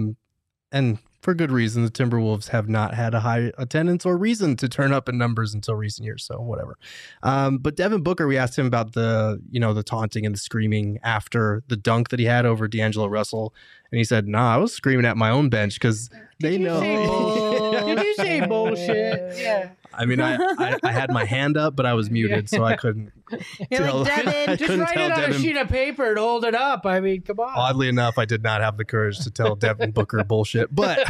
And for good reason. The Timberwolves have not had a high attendance or reason to turn up in numbers until recent years. So whatever. But Devin Booker, we asked him about the taunting and the screaming after the dunk that he had over D'Angelo Russell. And he said, nah, I was screaming at my own bench because they know. Did you say bullshit? Yeah. I mean, I had my hand up, but I was muted, so I couldn't You're tell. like, Devin, I Just couldn't write tell it on a Devin. sheet of paper and hold it up. I mean, come on. Oddly enough, I did not have the courage to tell Devin Booker bullshit. But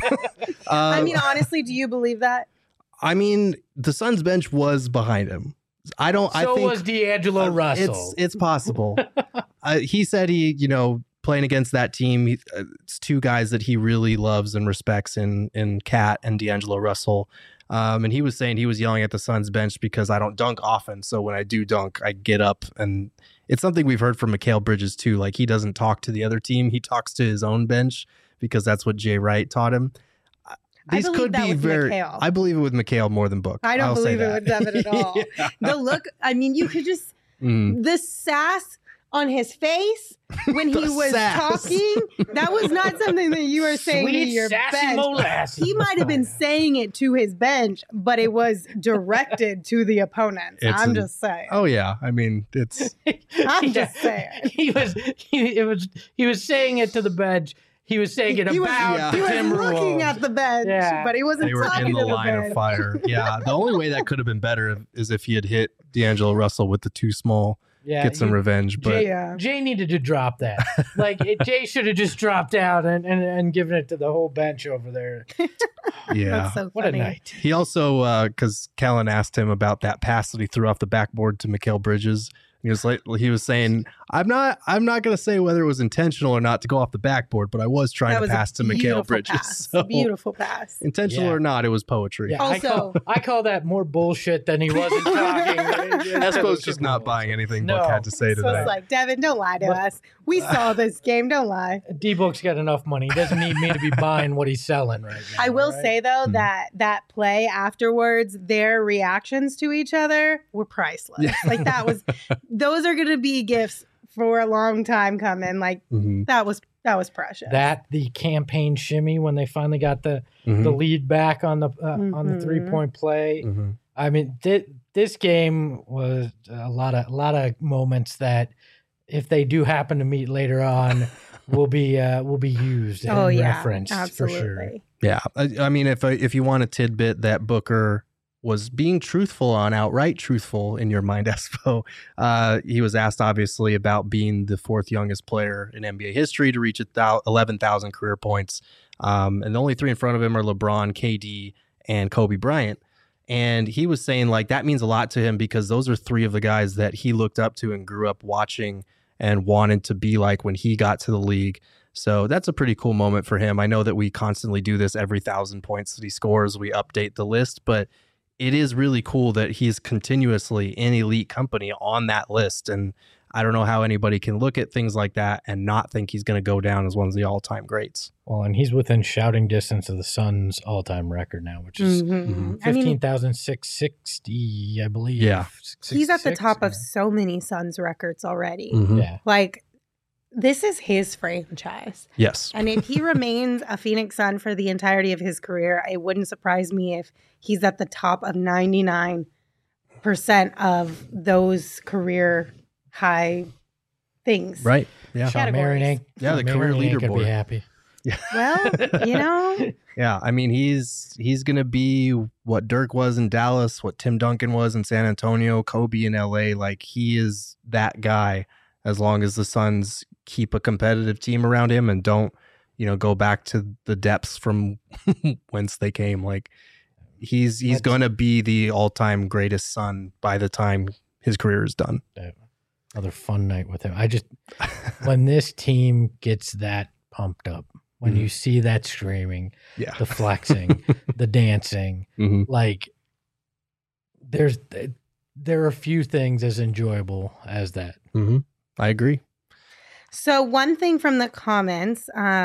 I mean, honestly, do you believe that? I mean, the Suns bench was behind him. I So think was D'Angelo Russell. It's possible. He said playing against that team, it's two guys that he really loves and respects in Cat and D'Angelo Russell. And he was saying he was yelling at the Suns bench because I don't dunk often. So when I do dunk, I get up. And it's something we've heard from Mikal Bridges too. Like, he doesn't talk to the other team. He talks to his own bench because that's what Jay Wright taught him. These could be very. Mikal. I believe it with Mikal more than Book. I don't believe it with Devin at all. Yeah. The look, I mean, you could just, the sass on his face when he was talking, that was not something that you were saying to your bench. Molasses. He might have been saying it to his bench, but it was directed to the opponents. I'm just saying. Oh yeah, I mean, it's. I'm just saying. He was saying it to the bench. He was saying it about He was Timberwolves. looking at the bench, but he wasn't They were talking in the to the line bench. of fire. Yeah, the only way that could have been better is if he had hit D'Angelo Russell with the too small. Get some revenge, but Jay needed to drop that. Jay should have just dropped out and given it to the whole bench over there. Yeah, That's so funny. What a night. He also, because Kellen asked him about that pass that he threw off the backboard to Mikal Bridges. He was saying, I'm not going to say whether it was intentional or not to go off the backboard, but I was trying to pass to Mikal Bridges. Pass. So, beautiful pass. intentional or not, it was poetry. Yeah, Also, I call that more bullshit than he wasn't talking. Espo's just not buying anything Buck had to say so today. it's like, Devin, don't lie to us. We saw this game. Don't lie. D-Book's got enough money. He doesn't need me to be buying what he's selling right now. I will right? say though that play afterwards, their reactions to each other were priceless. Yeah. Like those are going to be gifts for a long time coming. Like that was precious. That the campaign shimmy when they finally got the lead back on the 3-point play. I mean, this game was a lot of moments that, if they do happen to meet later on, will be used and referenced absolutely. for sure. Yeah, I mean, if you want a tidbit that Booker was being truthful on, outright truthful in your mind, Espo, he was asked obviously about being the fourth youngest player in NBA history to reach 11,000 career points, and the only three in front of him are LeBron, KD, and Kobe Bryant. And he was saying like that means a lot to him because those are three of the guys that he looked up to and grew up watching and wanted to be like when he got to the league. So that's a pretty cool moment for him. I know that we constantly do this every 1,000 points that he scores. We update the list, but it is really cool that he's continuously in elite company on that list. And I don't know how anybody can look at things like that and not think he's going to go down as one of the all-time greats. Well, and he's within shouting distance of the Suns' all-time record now, which is 15,660, I believe. Yeah. He's at the top of so many Suns records already. Yeah. Like, this is his franchise. Yes. And if he remains a Phoenix Sun for the entirety of his career, it wouldn't surprise me if he's at the top of 99% of those career high things. Right. Yeah. Shawn Marion ain't, Yeah, the career could be leaderboard. happy. Well, Yeah, I mean, he's going to be what Dirk was in Dallas, what Tim Duncan was in San Antonio, Kobe in LA. Like, he is that guy as long as the Suns keep a competitive team around him and don't, go back to the depths from whence they came. Like, he's going to be the all-time greatest Sun by the time his career is done. Another fun night with him. When this team gets that pumped up, when you see that screaming, the flexing, the dancing, like there are few things as enjoyable as that. I agree. So one thing from the comments,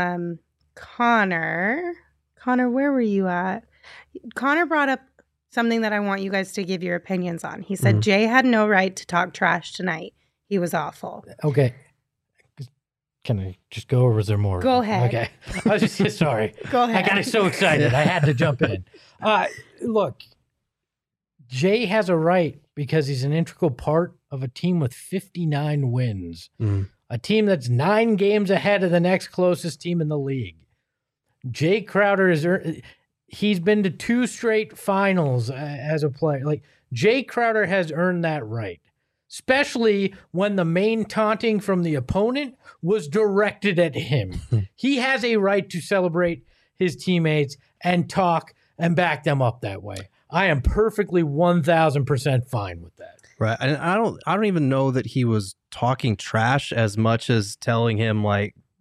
Connor, where were you at? Connor brought up something that I want you guys to give your opinions on. He said Jay had no right to talk trash tonight. He was awful. Okay. Can I just go, or was there more? Go ahead. Okay. I was just sorry. Go ahead. I got so excited. I had to jump in. Look, Jay has a right because he's an integral part of a team with 59 wins, a team that's 9 games ahead of the next closest team in the league. Jay Crowder he's been to 2 straight finals as a player. Like, Jay Crowder has earned that right, especially when the main taunting from the opponent was directed at him. He has a right to celebrate his teammates and talk and back them up that way. I am perfectly 1,000% fine with that. Right. And I don't even know that he was talking trash as much as telling him, like,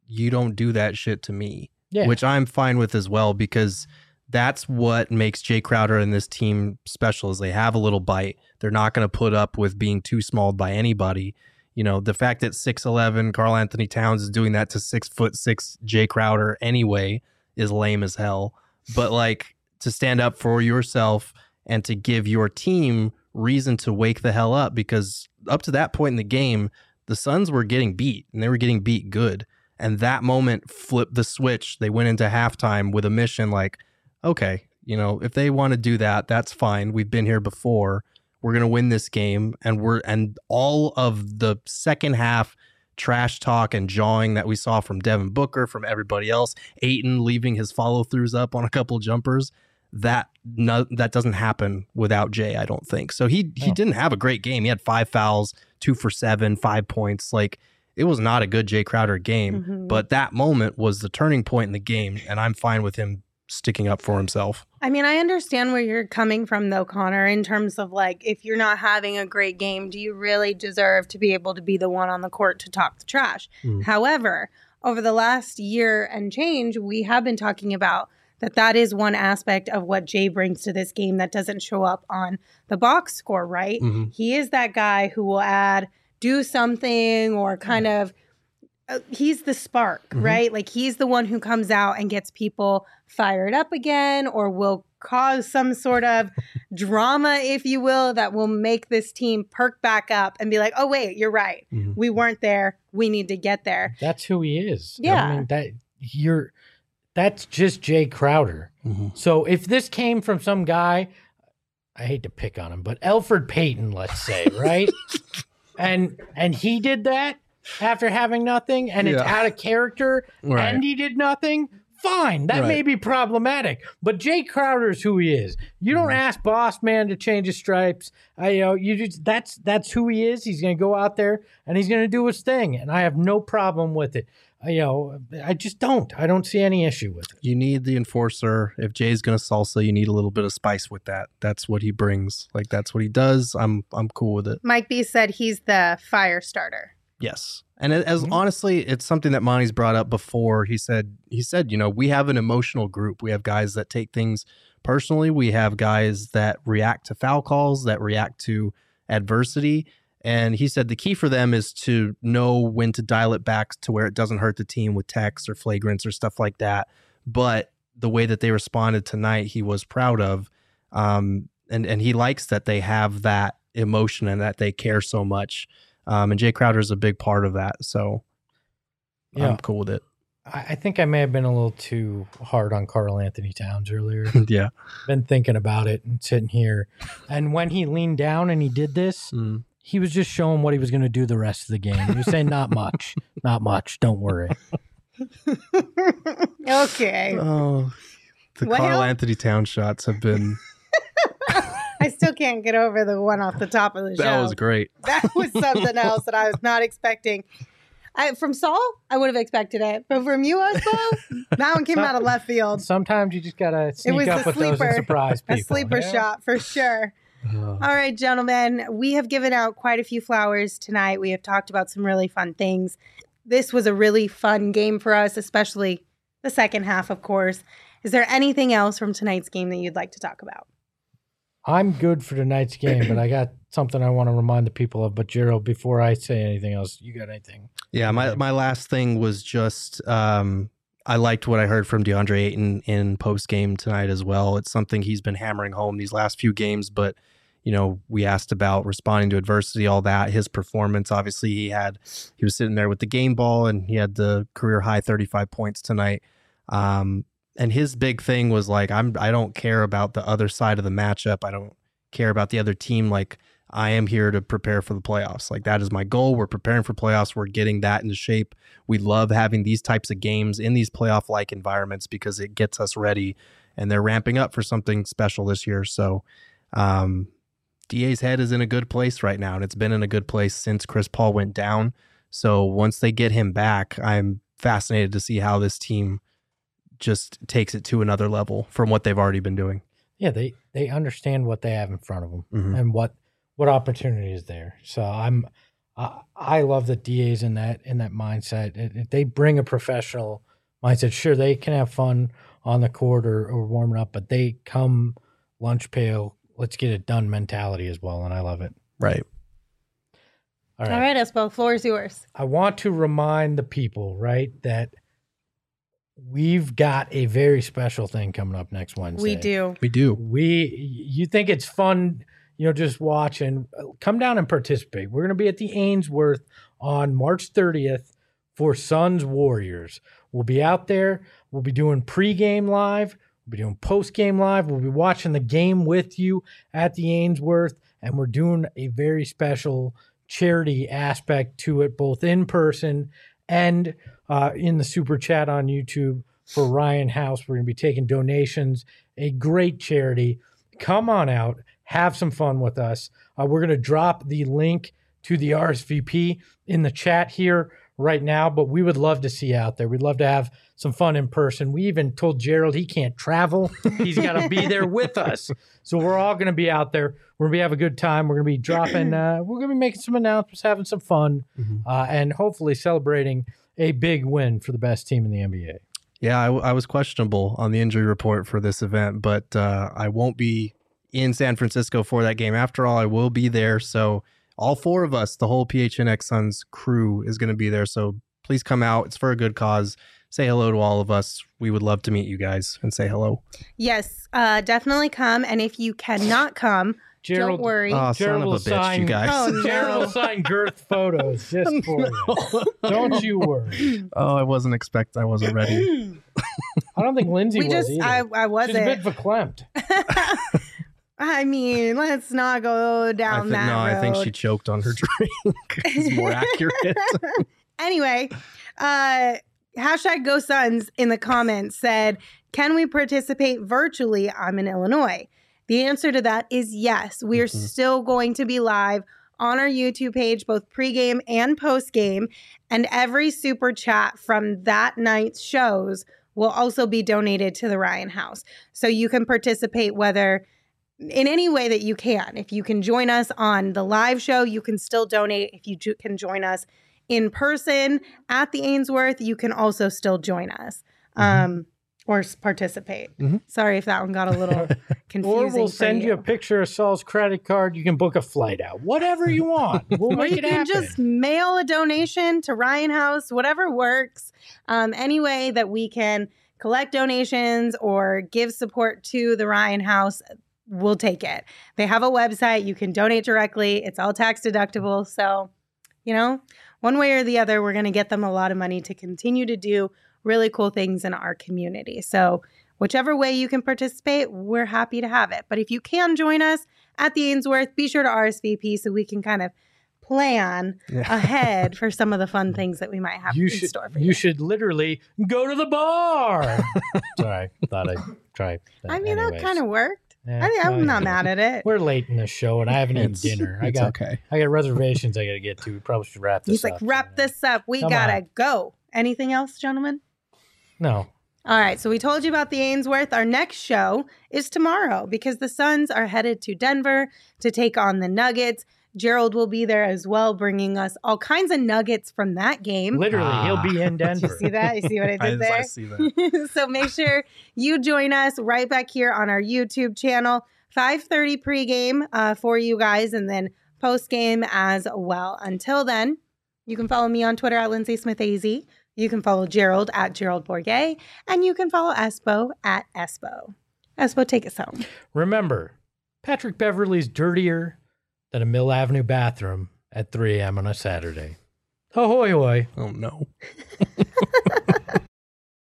you don't do that shit to me. Yeah. Which I'm fine with as well, because that's what makes Jay Crowder and this team special is they have a little bite. They're not going to put up with being too smalled by anybody. You know, the fact that 6'11" Karl Anthony Towns is doing that to 6'6" Jay Crowder anyway is lame as hell. But like, to stand up for yourself and to give your team reason to wake the hell up, because up to that point in the game, the Suns were getting beat and they were getting beat good. And that moment flipped the switch. They went into halftime with a mission like, okay, you know, if they want to do that, that's fine. We've been here before. We're going to win this game. And all of the second half trash talk and jawing that we saw from Devin Booker, from everybody else, Ayton leaving his follow throughs up on a couple jumpers, that doesn't happen without Jay, I don't think. So he didn't have a great game. He had 5 fouls, 2 for 7, 5 points. Like, it was not a good Jay Crowder game, but that moment was the turning point in the game, and I'm fine with him sticking up for himself. I mean, I understand where you're coming from, though, Connor, in terms of, like, if you're not having a great game, do you really deserve to be able to be the one on the court to talk the trash? However, over the last year and change, we have been talking about that is one aspect of what Jay brings to this game that doesn't show up on the box score, right? He is that guy who will do something or kind of, he's the spark, right? Like, he's the one who comes out and gets people fired up again, or will cause some sort of drama, if you will, that will make this team perk back up and be like, oh, wait, you're right. We weren't there. We need to get there. That's who he is. Yeah. I mean, that's just Jay Crowder. So if this came from some guy, I hate to pick on him, but Elfrid Payton, let's say, right? And he did that after having nothing, and it's out of character, and he did nothing. Fine, that may be problematic, but Jay Crowder's who he is. You don't ask Boss Man to change his stripes. That's who he is. He's going to go out there and he's going to do his thing, and I have no problem with it. I just don't. I don't see any issue with it. You need the enforcer. If Jay's going to salsa, you need a little bit of spice with that. That's what he brings. Like, that's what he does. I'm cool with it. Mike B said he's the fire starter. Yes. And as honestly, it's something that Monty's brought up before. He said, you know, we have an emotional group. We have guys that take things personally. We have guys that react to foul calls, that react to adversity. And he said the key for them is to know when to dial it back to where it doesn't hurt the team with techs or flagrants or stuff like that. But the way that they responded tonight, he was proud of. And he likes that they have that emotion and that they care so much. And Jay Crowder is a big part of that. So I'm cool with it. I think I may have been a little too hard on Karl Anthony Towns earlier. Yeah. Been thinking about it and sitting here. And when he leaned down and he did this, he was just showing what he was going to do the rest of the game. He was saying, not much, not much. Don't worry. Okay. Oh, the Karl Anthony Towns shots have been... I still can't get over the one off the top of the show. That was great. That was something else that I was not expecting. From Saul, I would have expected it. But from you, Osbo, that one came out of left field. Sometimes you just got to sneak up with those and surprise people. A sleeper shot, for sure. All right, gentlemen, we have given out quite a few flowers tonight. We have talked about some really fun things. This was a really fun game for us, especially the second half, of course. Is there anything else from tonight's game that you'd like to talk about? I'm good for tonight's game, but I got something I want to remind the people of. But, Jero, before I say anything else, you got anything? Yeah, my last thing was just I liked what I heard from DeAndre Ayton in post-game tonight as well. It's something he's been hammering home these last few games, but, you know, we asked about responding to adversity, all that. His performance, obviously, he was sitting there with the game ball, and he had the career-high 35 points tonight. And his big thing was like, I don't care about the other side of the matchup. I don't care about the other team. Like, I am here to prepare for the playoffs. Like, that is my goal. We're preparing for playoffs. We're getting that into shape. We love having these types of games in these playoff-like environments because it gets us ready, and they're ramping up for something special this year. So DA's head is in a good place right now, and it's been in a good place since Chris Paul went down. So once they get him back, I'm fascinated to see how this team just takes it to another level from what they've already been doing. Yeah, they understand what they have in front of them and what opportunity is there. So I'm I love that DA's in that mindset. They bring a professional mindset. Sure, they can have fun on the court or warming up, but they come lunch pail, let's get it done mentality as well, and I love it. Right. All All right, Espo, floor is yours. I want to remind the people, right, that we've got a very special thing coming up next Wednesday. We do. We do. You think it's fun, just watching. Come down and participate. We're going to be at the Ainsworth on March 30th for Suns Warriors. We'll be out there. We'll be doing pregame live. We'll be doing postgame live. We'll be watching the game with you at the Ainsworth, and we're doing a very special charity aspect to it, both in person and in the super chat on YouTube for Ryan House. We're going to be taking donations, a great charity. Come on out, have some fun with us. We're going to drop the link to the RSVP in the chat here right now, but we would love to see you out there. We'd love to have some fun in person. We even told Gerald he can't travel. He's got to be there with us. So we're all going to be out there. We're going to have a good time. We're going to be dropping, we're going to be making some announcements, having some fun, and hopefully celebrating a big win for the best team in the NBA. Yeah, I was questionable on the injury report for this event, but I won't be in San Francisco for that game. After all, I will be there. So all four of us, the whole PHNX Suns crew is going to be there. So please come out. It's for a good cause. Say hello to all of us. We would love to meet you guys and say hello. Yes, definitely come. And if you cannot come, don't worry. Oh, son of a bitch, you guys. Oh, no. Gerald will sign Girth photos just for you. Don't you worry. Oh, I wasn't ready. I don't think Lindsay was either. I wasn't. She's a bit verklempt. I mean, let's not go down that road. I think she choked on her drink. It's more accurate. Anyway, hashtag Go Suns in the comments said, can we participate virtually? I'm in Illinois. The answer to that is yes. We are still going to be live on our YouTube page, both pregame and postgame. And every super chat from that night's shows will also be donated to the Ryan House. So you can participate whether in any way that you can. If you can join us on the live show, you can still donate. If you can join us in person at the Ainsworth, you can also still join us or participate. Sorry if that one got a little confusing. Or we'll send you a picture of Saul's credit card. You can book a flight out. Whatever you want. We'll make it happen. You can just mail a donation to Ryan House, whatever works. Any way that we can collect donations or give support to the Ryan House, we'll take it. They have a website. You can donate directly. It's all tax deductible. So, one way or the other, we're going to get them a lot of money to continue to do really cool things in our community. So whichever way you can participate, we're happy to have it. But if you can join us at the Ainsworth, be sure to RSVP so we can kind of plan ahead for some of the fun things that we might have in store for you. You should literally go to the bar. Sorry, thought I'd try that. I mean, that kind of worked. Yeah, I'm not mad at it. We're late in the show, and I haven't eaten dinner. I got reservations I got to get to. We probably should wrap this up. He's like, wrap this up. We got to go. Anything else, gentlemen? No. All right. So we told you about the Ainsworth. Our next show is tomorrow because the Suns are headed to Denver to take on the Nuggets. Gerald will be there as well, bringing us all kinds of nuggets from that game. Literally, he'll be in Denver. You see that? You see what I did there? I see that. So make sure you join us right back here on our YouTube channel, 5:30 pregame for you guys, and then postgame as well. Until then, you can follow me on Twitter at Lindsay Smith AZ. You can follow Gerald at Gerald Bourget, and you can follow Espo at Espo. Espo, take us home. Remember, Patrick Beverley's dirtier than a Mill Avenue bathroom at 3 a.m. on a Saturday. Ahoy, hoy. Oh, no.